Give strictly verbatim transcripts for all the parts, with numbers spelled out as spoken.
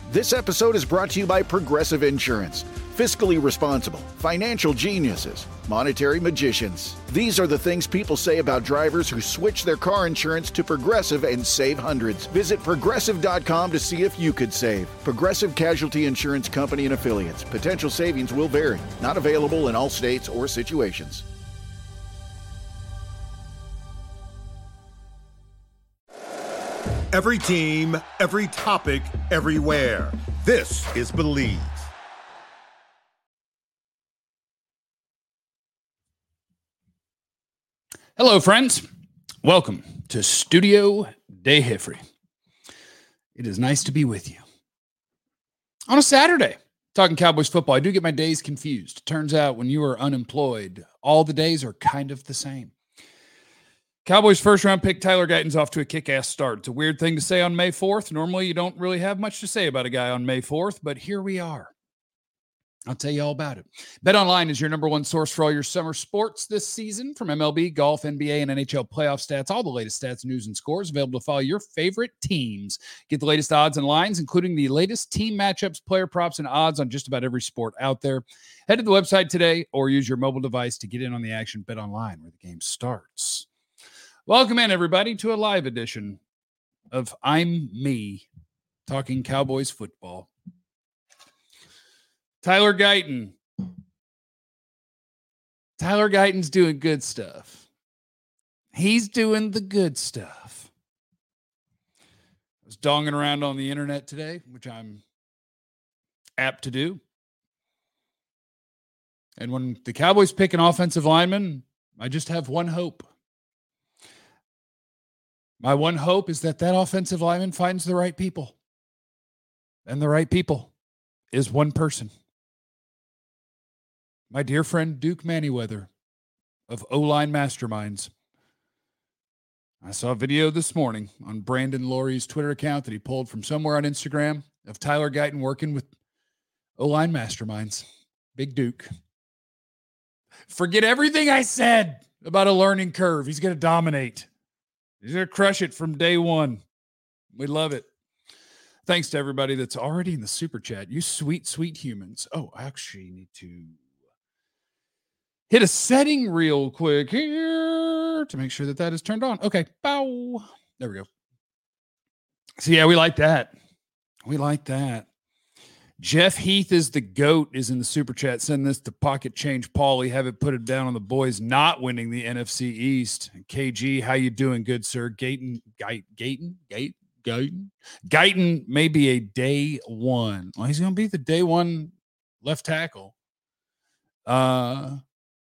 This episode is brought to you by Progressive Insurance. Fiscally responsible, financial geniuses, monetary magicians. These are the things people say about drivers who switch their car insurance to Progressive and save hundreds. Visit progressive dot com to see if you could save. Progressive Casualty Insurance Company and Affiliates. Potential savings will vary. Not available in all states or situations. Every team, every topic, everywhere. This is Believe. Hello, friends. Welcome to Studio De Hifrey. It is nice to be with you. On a Saturday, talking Cowboys football, I do get my days confused. Turns out when you are unemployed, all the days are kind of the same. Cowboys first-round pick Tyler Guyton's off to a kick-ass start. It's a weird thing to say on May fourth. Normally, you don't really have much to say about a guy on May fourth, but here we are. I'll tell you all about it. BetOnline is your number one source for all your summer sports this season, from M L B, golf, N B A, and N H L playoff stats. All the latest stats, news, and scores available to follow your favorite teams. Get the latest odds and lines, including the latest team matchups, player props, and odds on just about every sport out there. Head to the website today or use your mobile device to get in on the action. BetOnline, where the game starts. Welcome in, everybody, to a live edition of I'm Me, talking Cowboys football. Tyler Guyton. Tyler Guyton's doing good stuff. He's doing the good stuff. I was donging around on the internet today, which I'm apt to do. And when the Cowboys pick an offensive lineman, I just have one hope. My one hope is that that offensive lineman finds the right people. And the right people is one person. My dear friend Duke Manyweather of O-Line Masterminds. I saw a video this morning on Brandon Laurie's Twitter account that he pulled from somewhere on Instagram of Tyler Guyton working with O-Line Masterminds. Big Duke. Forget everything I said about a learning curve. He's going to dominate. He's going to crush it from day one. We love it. Thanks to everybody that's already in the super chat. You sweet, sweet humans. Oh, I actually need to hit a setting real quick here to make sure that that is turned on. Okay. Bow. There we go. So, yeah, we like that. We like that. Jeff Heath is the GOAT is in the super chat. Send this to Pocket Change Paulie. Have it put it down on the boys not winning the N F C East. K G, how you doing, good sir? Guyton, Guyton, Guyton, Guyton, Guyton. Guyton may be a day one. Well, he's going to be the day one left tackle. Uh,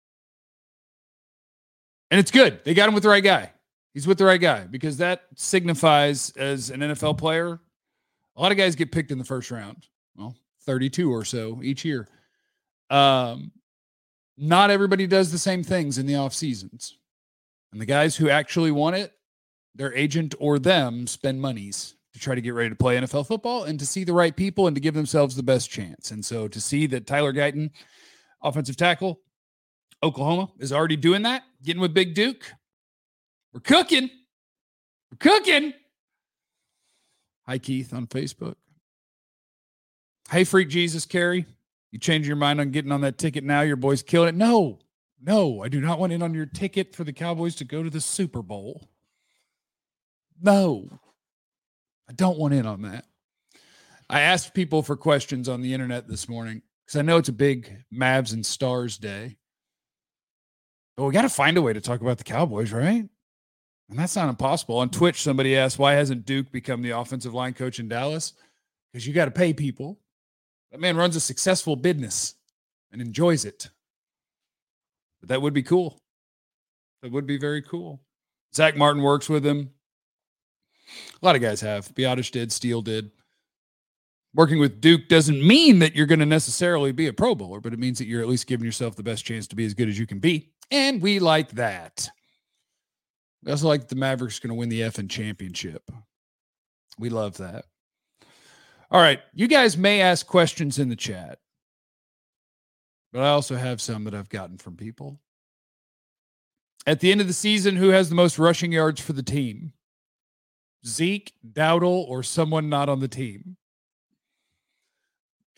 and it's good. They got him with the right guy. He's with the right guy because that signifies as an N F L player, a lot of guys get picked in the first round. Well, thirty-two or so each year. Um, not everybody does the same things in the off seasons. And the guys who actually want it, their agent or them spend monies to try to get ready to play N F L football and to see the right people and to give themselves the best chance. And so to see that Tyler Guyton, offensive tackle, Oklahoma, is already doing that, getting with Big Duke. We're cooking. We're cooking. Hi, Keith on Facebook. Hey, Freak Jesus, Carey, you change your mind on getting on that ticket now? Your boys killing it. No, no, I do not want in on your ticket for the Cowboys to go to the Super Bowl. No, I don't want in on that. I asked people for questions on the internet this morning because I know it's a big Mavs and Stars day. But we got to find a way to talk about the Cowboys, right? And that's not impossible. On Twitch, somebody asked, why hasn't Duke become the offensive line coach in Dallas? Because you got to pay people. That man runs a successful business and enjoys it. But that would be cool. That would be very cool. Zach Martin works with him. A lot of guys have. Biotish did. Steele did. Working with Duke doesn't mean that you're going to necessarily be a Pro Bowler, but it means that you're at least giving yourself the best chance to be as good as you can be. And we like that. We also like that the Mavericks are going to win the effing championship. We love that. All right, you guys may ask questions in the chat, but I also have some that I've gotten from people. At the end of the season, who has the most rushing yards for the team? Zeke, Dowdle, or someone not on the team?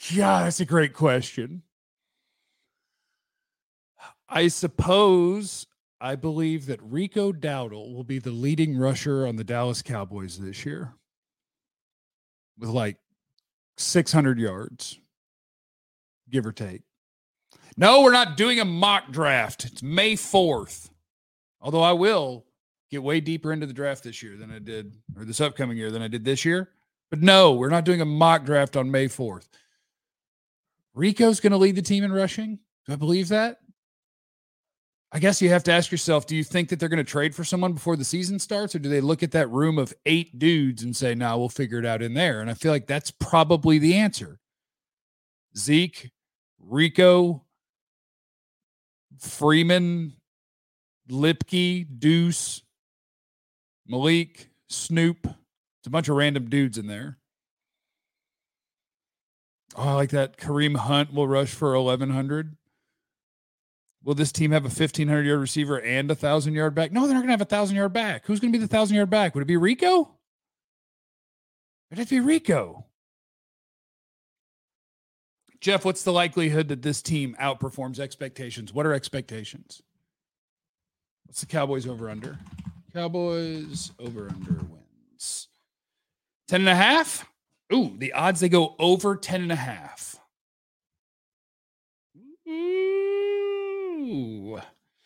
Yeah, that's a great question. I suppose I believe that Rico Dowdle will be the leading rusher on the Dallas Cowboys this year with like six hundred yards, give or take. No, we're not doing a mock draft. It's May fourth. Although I will get way deeper into the draft this year than I did, or this upcoming year than I did this year. But no, we're not doing a mock draft on May fourth. Rico's going to lead the team in rushing. Do I believe that? I guess you have to ask yourself, do you think that they're going to trade for someone before the season starts, or do they look at that room of eight dudes and say, no, nah, we'll figure it out in there? And I feel like that's probably the answer. Zeke, Rico, Freeman, Lipke, Deuce, Malik, Snoop. It's a bunch of random dudes in there. Oh, I like that. Kareem Hunt will rush for eleven hundred. Will this team have a fifteen hundred yard receiver and a thousand yard back? No, they're not going to have a thousand yard back. Who's going to be the thousand yard back? Would it be Rico? It'd have to be Rico. Jeff, what's the likelihood that this team outperforms expectations? What are expectations? What's the Cowboys over under? Cowboys over under wins. ten and a half. Ooh, the odds they go over ten and a half. Ooh.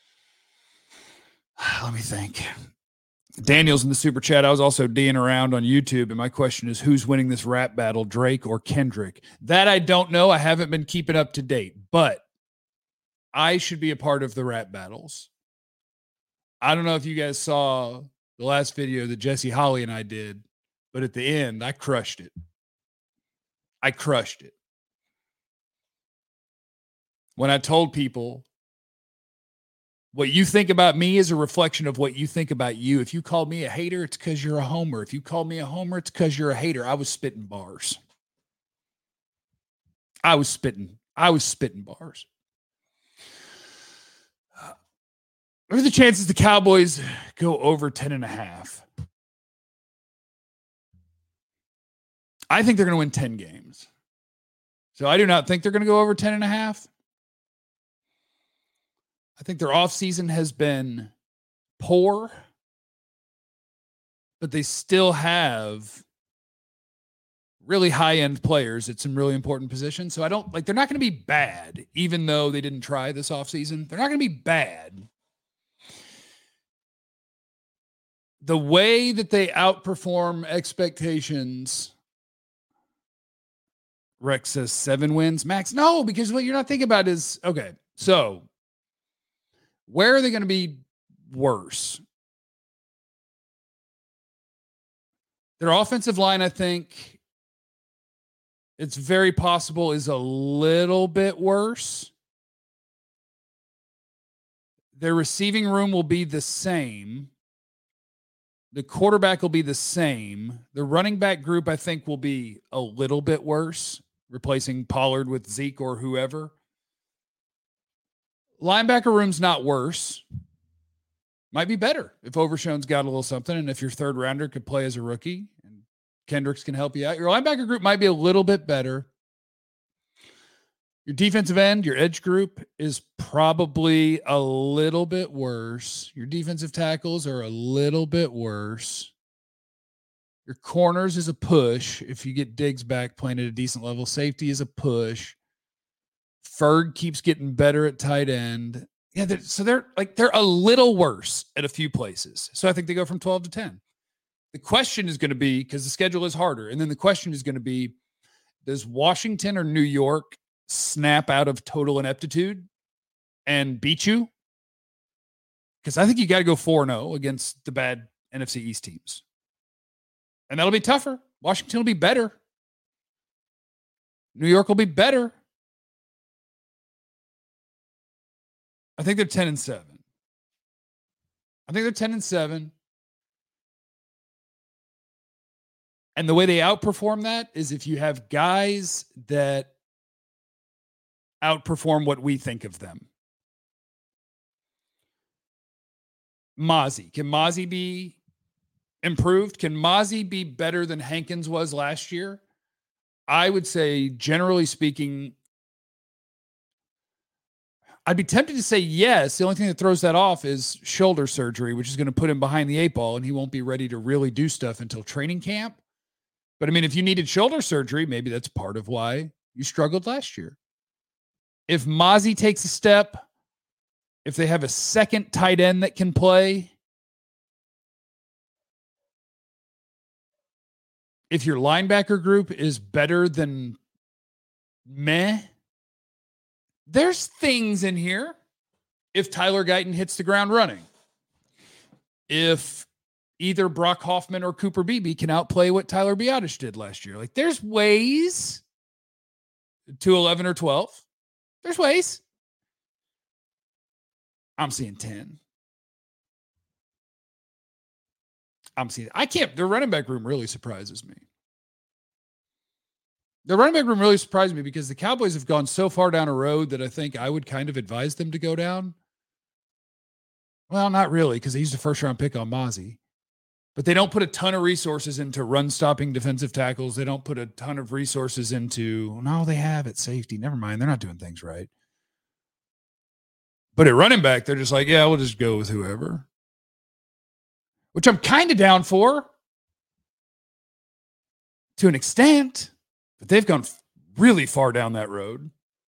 Let me think. Daniel's in the super chat. I was also D'ing around on YouTube, and my question is, who's winning this rap battle, Drake or Kendrick? That I don't know. I haven't been keeping up to date, but I should be a part of the rap battles. I don't know if you guys saw the last video that Jesse Holly and I did, but at the end, I crushed it. I crushed it. When I told people what you think about me is a reflection of what you think about you. If you called me a hater, it's because you're a homer. If you called me a homer, it's because you're a hater. I was spitting bars. I was spitting. I was spitting bars. Uh, what are the chances the Cowboys go over ten and a half? I think they're going to win ten games. So I do not think they're going to go over ten and a half. I think their offseason has been poor, but they still have really high-end players at some really important positions. So I don't like, they're not going to be bad, even though they didn't try this offseason. They're not going to be bad. The way that they outperform expectations, Rex says seven wins. Max, no, because what you're not thinking about is, okay, so where are they going to be worse? Their offensive line, I think, it's very possible is a little bit worse. Their receiving room will be the same. The quarterback will be the same. The running back group, I think, will be a little bit worse, replacing Pollard with Zeke or whoever. Linebacker room's not worse. Might be better if Overshown's got a little something, and if your third rounder could play as a rookie and Kendricks can help you out. Your linebacker group might be a little bit better. Your defensive end, your edge group is probably a little bit worse. Your defensive tackles are a little bit worse. Your corners is a push. If you get Diggs back playing at a decent level, safety is a push. Ferg keeps getting better at tight end. Yeah, they're, so they're like they're a little worse at a few places. So I think they go from twelve to ten. The question is going to be, because the schedule is harder, and then the question is going to be, does Washington or New York snap out of total ineptitude and beat you? Because I think you got to go four and oh against the bad N F C East teams. And that'll be tougher. Washington will be better. New York will be better. I think they're ten and seven. I think they're ten and seven. And the way they outperform that is if you have guys that outperform what we think of them. Mozzie. Can Mozzie be improved? Can Mozzie be better than Hankins was last year? I would say, generally speaking, I'd be tempted to say yes. The only thing that throws that off is shoulder surgery, which is going to put him behind the eight ball, and he won't be ready to really do stuff until training camp. But I mean, if you needed shoulder surgery, maybe that's part of why you struggled last year. If Mazi takes a step, if they have a second tight end that can play, if your linebacker group is better than meh, there's things in here. If Tyler Guyton hits the ground running, if either Brock Hoffman or Cooper Beebe can outplay what Tyler Biadasz did last year, like there's ways to eleven or twelve. There's ways. I'm seeing ten. I'm seeing, I can't, the running back room really surprises me. The running back room really surprised me because the Cowboys have gone so far down a road that I think I would kind of advise them to go down. Well, not really, because they used a first round pick on Mazi. But they don't put a ton of resources into run stopping defensive tackles. They don't put a ton of resources into, no, they have at safety. Never mind. They're not doing things right. But at running back, they're just like, yeah, we'll just go with whoever. Which I'm kind of down for to an extent. But they've gone really far down that road.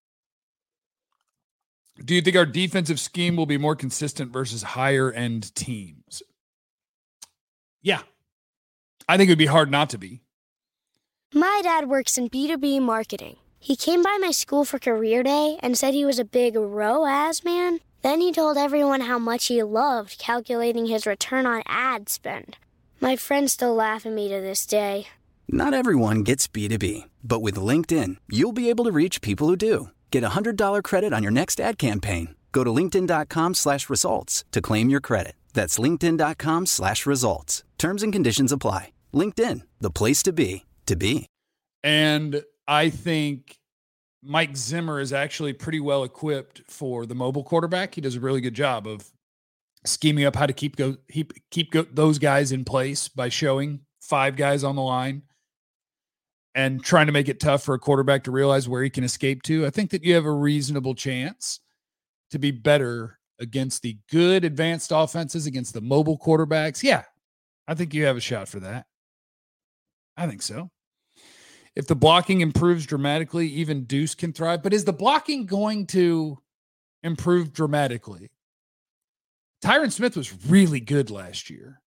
Do you think our defensive scheme will be more consistent versus higher end teams? Yeah. I think it would be hard not to be. My dad works in B two B marketing. He came by my school for career day and said he was a big R O A S man. Then he told everyone how much he loved calculating his return on ad spend. My friends still laugh at me to this day. Not everyone gets B two B, but with LinkedIn, you'll be able to reach people who do. Get a one hundred dollars credit on your next ad campaign. Go to linkedin.com slash results to claim your credit. That's linkedin.com slash results. Terms and conditions apply. LinkedIn, the place to be, to be. And I think Mike Zimmer is actually pretty well equipped for the mobile quarterback. He does a really good job of scheming up how to keep go keep, keep go, those guys in place by showing five guys on the line and trying to make it tough for a quarterback to realize where he can escape to. I think that you have a reasonable chance to be better against the good advanced offenses, against the mobile quarterbacks. Yeah, I think you have a shot for that. I think so. If the blocking improves dramatically, even Deuce can thrive. But is the blocking going to improve dramatically? Tyron Smith was really good last year.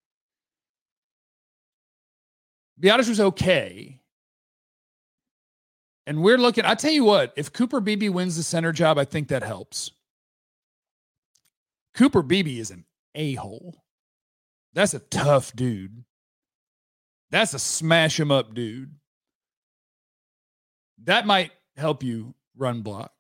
Biadasz was okay. And we're looking, I tell you what, if Cooper Beebe wins the center job, I think that helps. Cooper Beebe is an a-hole. That's a tough dude. That's a smash him up dude. That might help you run block.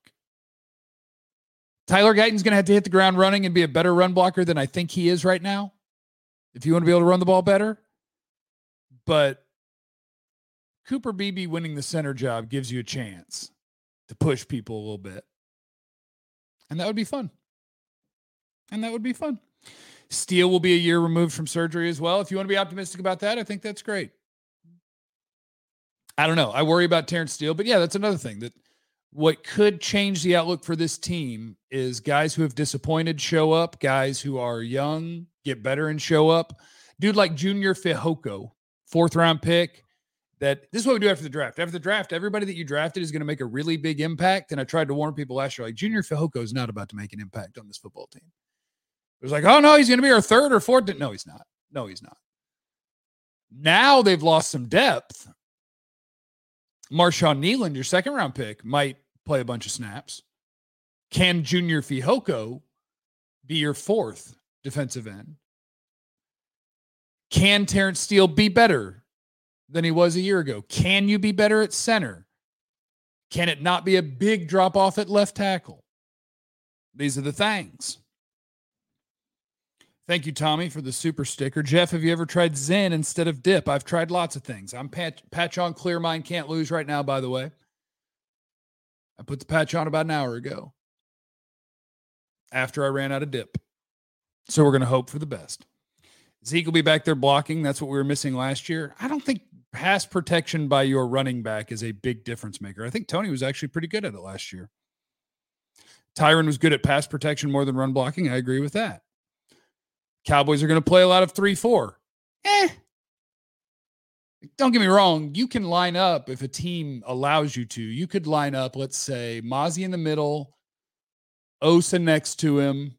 Tyler Guyton's going to have to hit the ground running and be a better run blocker than I think he is right now, if you want to be able to run the ball better. But Cooper Beebe winning the center job gives you a chance to push people a little bit. And that would be fun. And that would be fun. Steele will be a year removed from surgery as well. If you want to be optimistic about that, I think that's great. I don't know. I worry about Terrence Steele, but yeah, that's another thing that what could change the outlook for this team is guys who have disappointed show up, guys who are young, get better and show up. Dude like Junior Fehoko, fourth round pick. That this is what we do after the draft. After the draft, everybody that you drafted is going to make a really big impact. And I tried to warn people last year, like Junior Fehoko is not about to make an impact on this football team. It was like, oh no, he's going to be our third or fourth. No, he's not. No, he's not. Now they've lost some depth. Marshawn Nealand, your second round pick, might play a bunch of snaps. Can Junior Fehoko be your fourth defensive end? Can Terrence Steele be better than he was a year ago? Can you be better at center? Can it not be a big drop off at left tackle? These are the things. Thank you, Tommy, for the super sticker. Jeff, have you ever tried Zen instead of dip? I've tried lots of things. I'm patch, patch on clear mind, can't lose right now, by the way. I put the patch on about an hour ago after I ran out of dip. So we're going to hope for the best. Zeke will be back there blocking. That's what we were missing last year. I don't think pass protection by your running back is a big difference maker. I think Tony was actually pretty good at it last year. Tyron was good at pass protection more than run blocking. I agree with that. Cowboys are going to play a lot of three four. Eh. Don't get me wrong. You can line up if a team allows you to. You could line up, let's say, Mozzie in the middle, Osa next to him,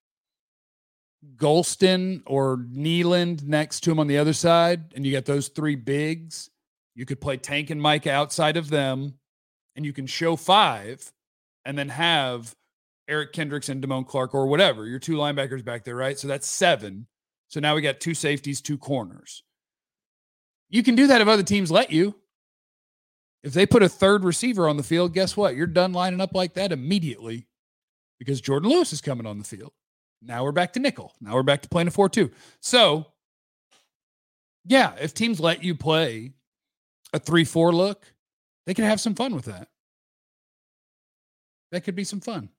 Golston or Nealand next to him on the other side, and you got those three bigs. You could play Tank and Mike outside of them, and you can show five and then have Eric Kendricks and Damone Clark or whatever. Your two linebackers back there, right? So that's seven. So now we got two safeties, two corners. You can do that if other teams let you. If they put a third receiver on the field, guess what? You're done lining up like that immediately because Jordan Lewis is coming on the field. Now we're back to nickel. Now we're back to playing a four two. So, yeah, if teams let you play a three four look, they can have some fun with that. That could be some fun.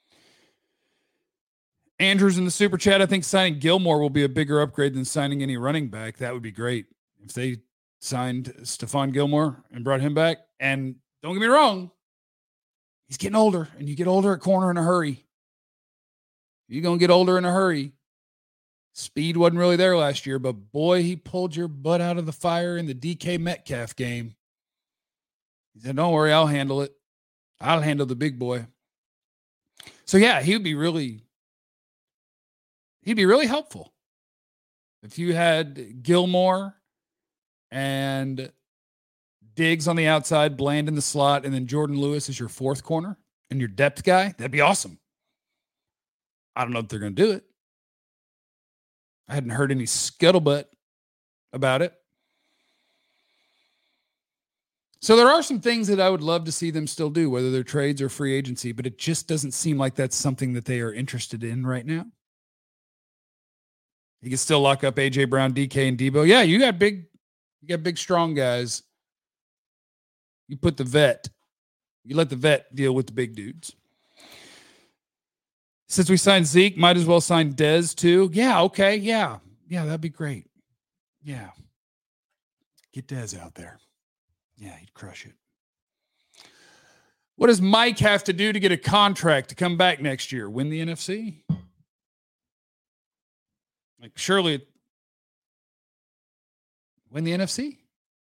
Andrews in the super chat, I think signing Gilmore will be a bigger upgrade than signing any running back. That would be great if they signed Stephon Gilmore and brought him back. And don't get me wrong, he's getting older, and you get older at corner in a hurry. You're going to get older in a hurry. Speed wasn't really there last year, but boy, he pulled your butt out of the fire in the D K Metcalf game. He said, don't worry, I'll handle it. I'll handle the big boy. So, yeah, he would be really, he'd be really helpful. If you had Gilmore and Diggs on the outside, Bland in the slot, and then Jordan Lewis as your fourth corner and your depth guy, that'd be awesome. I don't know if they're going to do it. I hadn't heard any scuttlebutt about it. So there are some things that I would love to see them still do, whether they're trades or free agency, but it just doesn't seem like that's something that they are interested in right now. You can still lock up A J Brown, D K, and Debo. Yeah, you got big, you got big, strong guys. You put the vet, you let the vet deal with the big dudes. Since we signed Zeke, might as well sign Dez too. Yeah, okay, yeah. Yeah, that'd be great. Yeah. Get Dez out there. Yeah, he'd crush it. What does Mike have to do to get a contract to come back next year? Win the N F C? Like, surely win the N F C?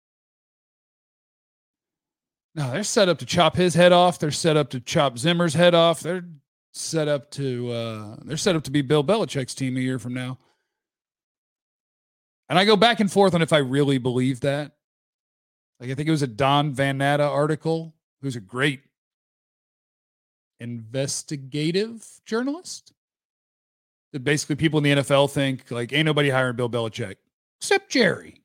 No, they're set up to chop his head off. They're set up to chop Zimmer's head off. They're set up to uh, they're set up to be Bill Belichick's team a year from now. And I go back and forth on if I really believe that. Like, I think it was a Don Van Natta article, who's a great investigative journalist. That basically people in the N F L think, like, ain't nobody hiring Bill Belichick except Jerry.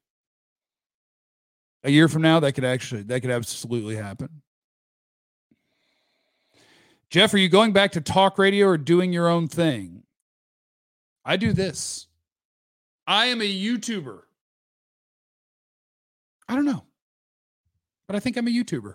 A year from now, that could actually, that could absolutely happen. Jeff, are you going back to talk radio or doing your own thing? I do this. I am a YouTuber. I don't know, but I think I'm a YouTuber.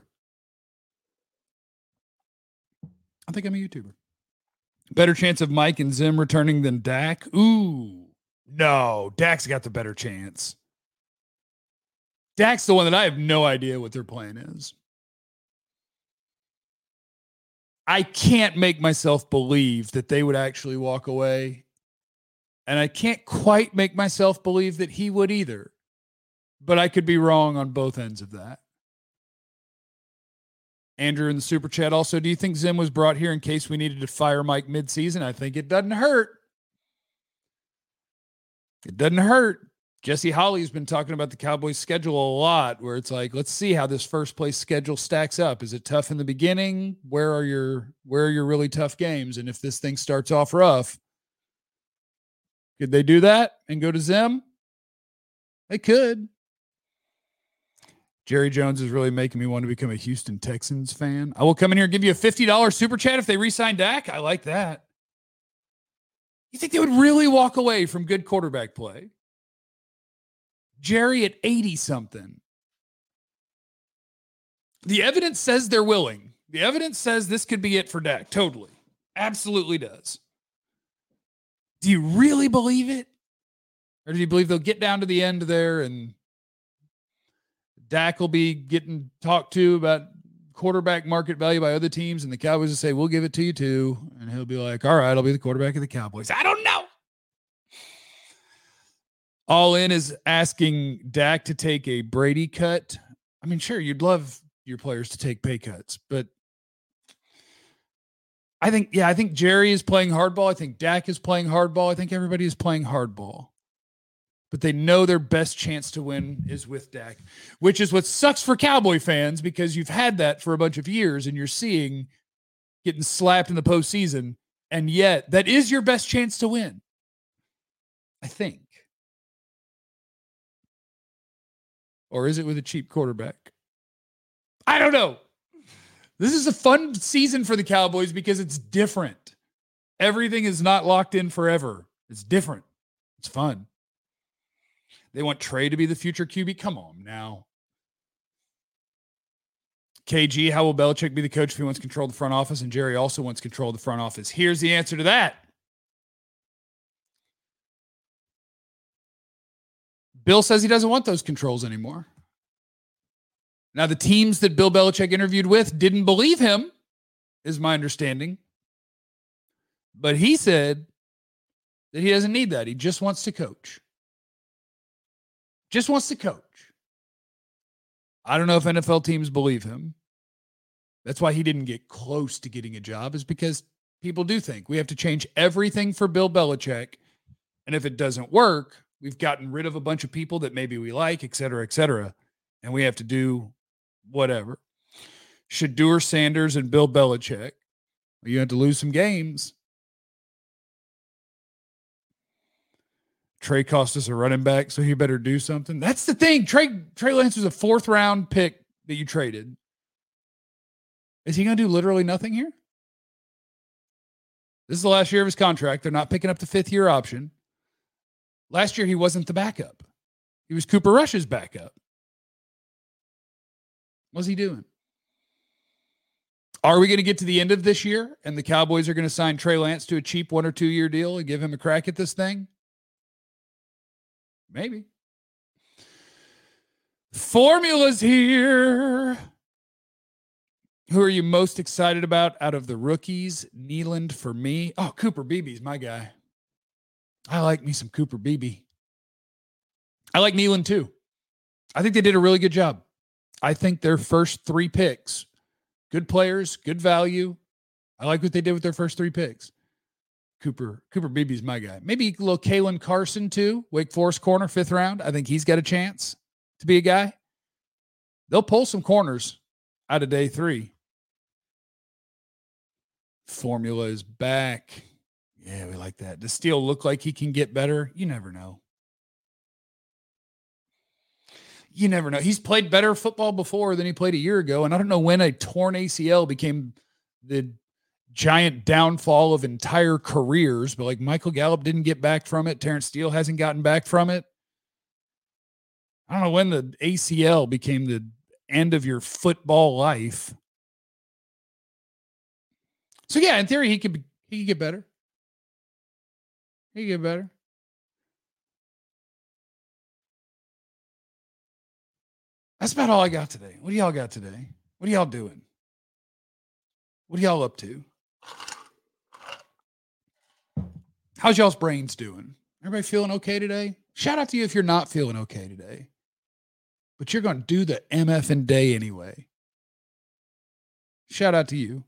I think I'm a YouTuber. Better chance of Mike and Zim returning than Dak? Ooh, no. Dak's got the better chance. Dak's the one that I have no idea what their plan is. I can't make myself believe that they would actually walk away. And I can't quite make myself believe that he would either. But I could be wrong on both ends of that. Andrew in the super chat also, do you think Zim was brought here in case we needed to fire Mike midseason? I think it doesn't hurt. It doesn't hurt. Jesse Holly's been talking about the Cowboys schedule a lot, where it's like, let's see how this first place schedule stacks up. Is it tough in the beginning? Where are your, where are your really tough games? And if this thing starts off rough, could they do that and go to Zim? They could. Jerry Jones is really making me want to become a Houston Texans fan. I will come in here and give you a fifty dollars super chat if they re-sign Dak. I like that. You think they would really walk away from good quarterback play? Jerry at eighty something. The evidence says they're willing. The evidence says this could be it for Dak. Totally. Absolutely does. Do you really believe it? Or do you believe they'll get down to the end there and Dak will be getting talked to about quarterback market value by other teams, and the Cowboys will say, we'll give it to you too. And he'll be like, all right, I'll be the quarterback of the Cowboys. I don't know. All In is asking Dak to take a Brady cut. I mean, sure, you'd love your players to take pay cuts, but I think, yeah, I think Jerry is playing hardball. I think Dak is playing hardball. I think everybody is playing hardball. But they know their best chance to win is with Dak, which is what sucks for Cowboy fans because you've had that for a bunch of years and you're seeing getting slapped in the postseason, and yet that is your best chance to win, I think. Or is it with a cheap quarterback? I don't know. This is a fun season for the Cowboys because it's different. Everything is not locked in forever. It's different. It's fun. They want Trey to be the future Q B. Come on now. K G, how will Belichick be the coach if he wants control of the front office? And Jerry also wants control of the front office. Here's the answer to that. Bill says he doesn't want those controls anymore. Now, the teams that Bill Belichick interviewed with didn't believe him, is my understanding. But he said that he doesn't need that. He just wants to coach. Just wants to coach. I don't know if N F L teams believe him. That's why he didn't get close to getting a job, is because people do think we have to change everything for Bill Belichick. And if it doesn't work, we've gotten rid of a bunch of people that maybe we like, et cetera, et cetera. And we have to do whatever. Shedeur Sanders and Bill Belichick. You have to lose some games. Trey cost us a running back, so he better do something. That's the thing. Trey, Trey Lance was a fourth round pick that you traded. Is he going to do literally nothing here? This is the last year of his contract. They're not picking up the fifth year option. Last year, he wasn't the backup. He was Cooper Rush's backup. What's he doing? Are we going to get to the end of this year and the Cowboys are going to sign Trey Lance to a cheap one or two year deal and give him a crack at this thing? Maybe. Formula's here. Who are you most excited about out of the rookies? Nealand for me. Oh, Cooper Beebe's my guy. I like me some Cooper Beebe. I like Nealand too. I think they did a really good job. I think their first three picks, good players, good value. I like what they did with their first three picks. Cooper, Cooper Beebe's my guy. Maybe a little Kalen Carson too. Wake Forest corner, fifth round. I think he's got a chance to be a guy. They'll pull some corners out of day three. Formula is back. Yeah, we like that. Does Steele look like he can get better? You never know. You never know. He's played better football before than he played a year ago. And I don't know when a torn A C L became the giant downfall of entire careers, but like Michael Gallup didn't get back from it. Terrence Steele hasn't gotten back from it. I don't know when the A C L became the end of your football life. So yeah, in theory, he could, he could get better. He could get better. That's about all I got today. What do y'all got today? What are y'all doing? What are y'all up to? How's y'all's brains doing? Everybody feeling okay today? Shout out to you if you're not feeling okay today. But you're going to do the M F and day anyway. Shout out to you.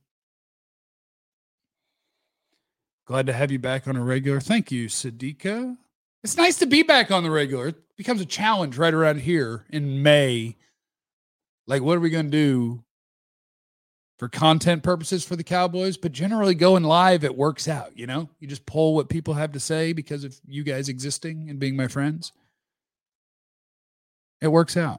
Glad to have you back on a regular. Thank you, Sadiqa. It's nice to be back on the regular. It becomes a challenge right around here in May. Like, what are we going to do for content purposes for the Cowboys? But generally going live, it works out, you know? You just pull what people have to say because of you guys existing and being my friends. It works out.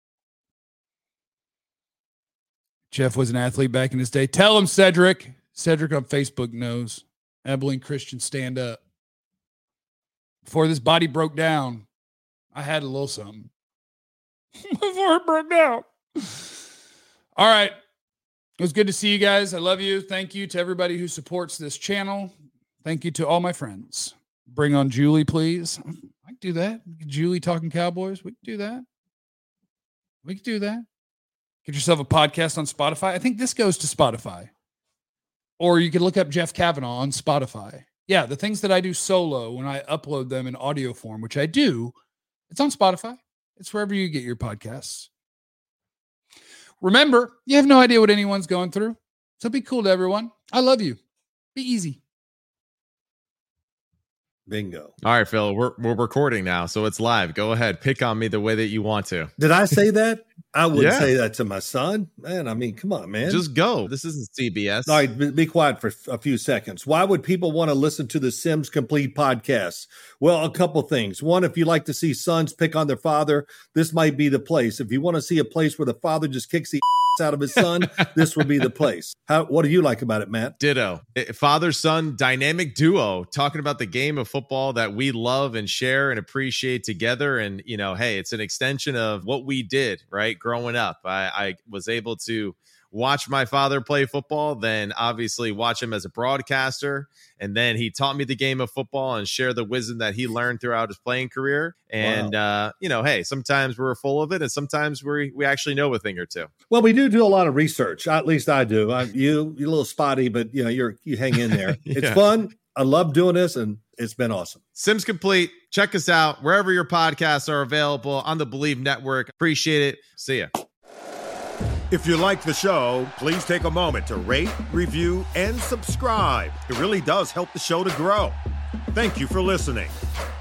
Jeff was an athlete back in his day. Tell him, Cedric. Cedric on Facebook knows. Abilene Christian, stand up. Before this body broke down, I had a little something. Before it broke down. All right. It was good to see you guys. I love you. Thank you to everybody who supports this channel. Thank you to all my friends. Bring on Julie, please. I can do that. Julie talking Cowboys. We can do that. We could do that. Get yourself a podcast on Spotify. I think this goes to Spotify. Or you could look up Jeff Kavanaugh on Spotify. Yeah, the things that I do solo when I upload them in audio form, which I do, it's on Spotify. It's wherever you get your podcasts. Remember, you have no idea what anyone's going through. So be cool to everyone. I love you. Be easy. Bingo. All right, Phil, we're we're recording now, so it's live. Go ahead. Pick on me the way that you want to. Did I say that? I wouldn't Yeah. say that to my son. Man, I mean, come on, man. Just go. This isn't C B S. All right, be, be quiet for a few seconds. Why would people want to listen to the Sims Complete podcast? Well, a couple things. One, if you like to see sons pick on their father, this might be the place. If you want to see a place where the father just kicks the out of his son, this would be the place. How? What do you like about it, Matt? Ditto. Father-son dynamic duo talking about the game of football that we love and share and appreciate together. And, you know, hey, it's an extension of what we did, right? Growing up, I, I was able to watch my father play football, then obviously watch him as a broadcaster. And then he taught me the game of football and share the wisdom that he learned throughout his playing career. And, wow. uh, you know, hey, sometimes we're full of it and sometimes we we actually know a thing or two. Well, we do do a lot of research. At least I do. I, you, you're a little spotty, but, you know, you're you hang in there. yeah. It's fun. I love doing this, and it's been awesome. Sims Complete. Check us out wherever your podcasts are available on the Believe Network. Appreciate it. See ya. If you like the show, please take a moment to rate, review, and subscribe. It really does help the show to grow. Thank you for listening.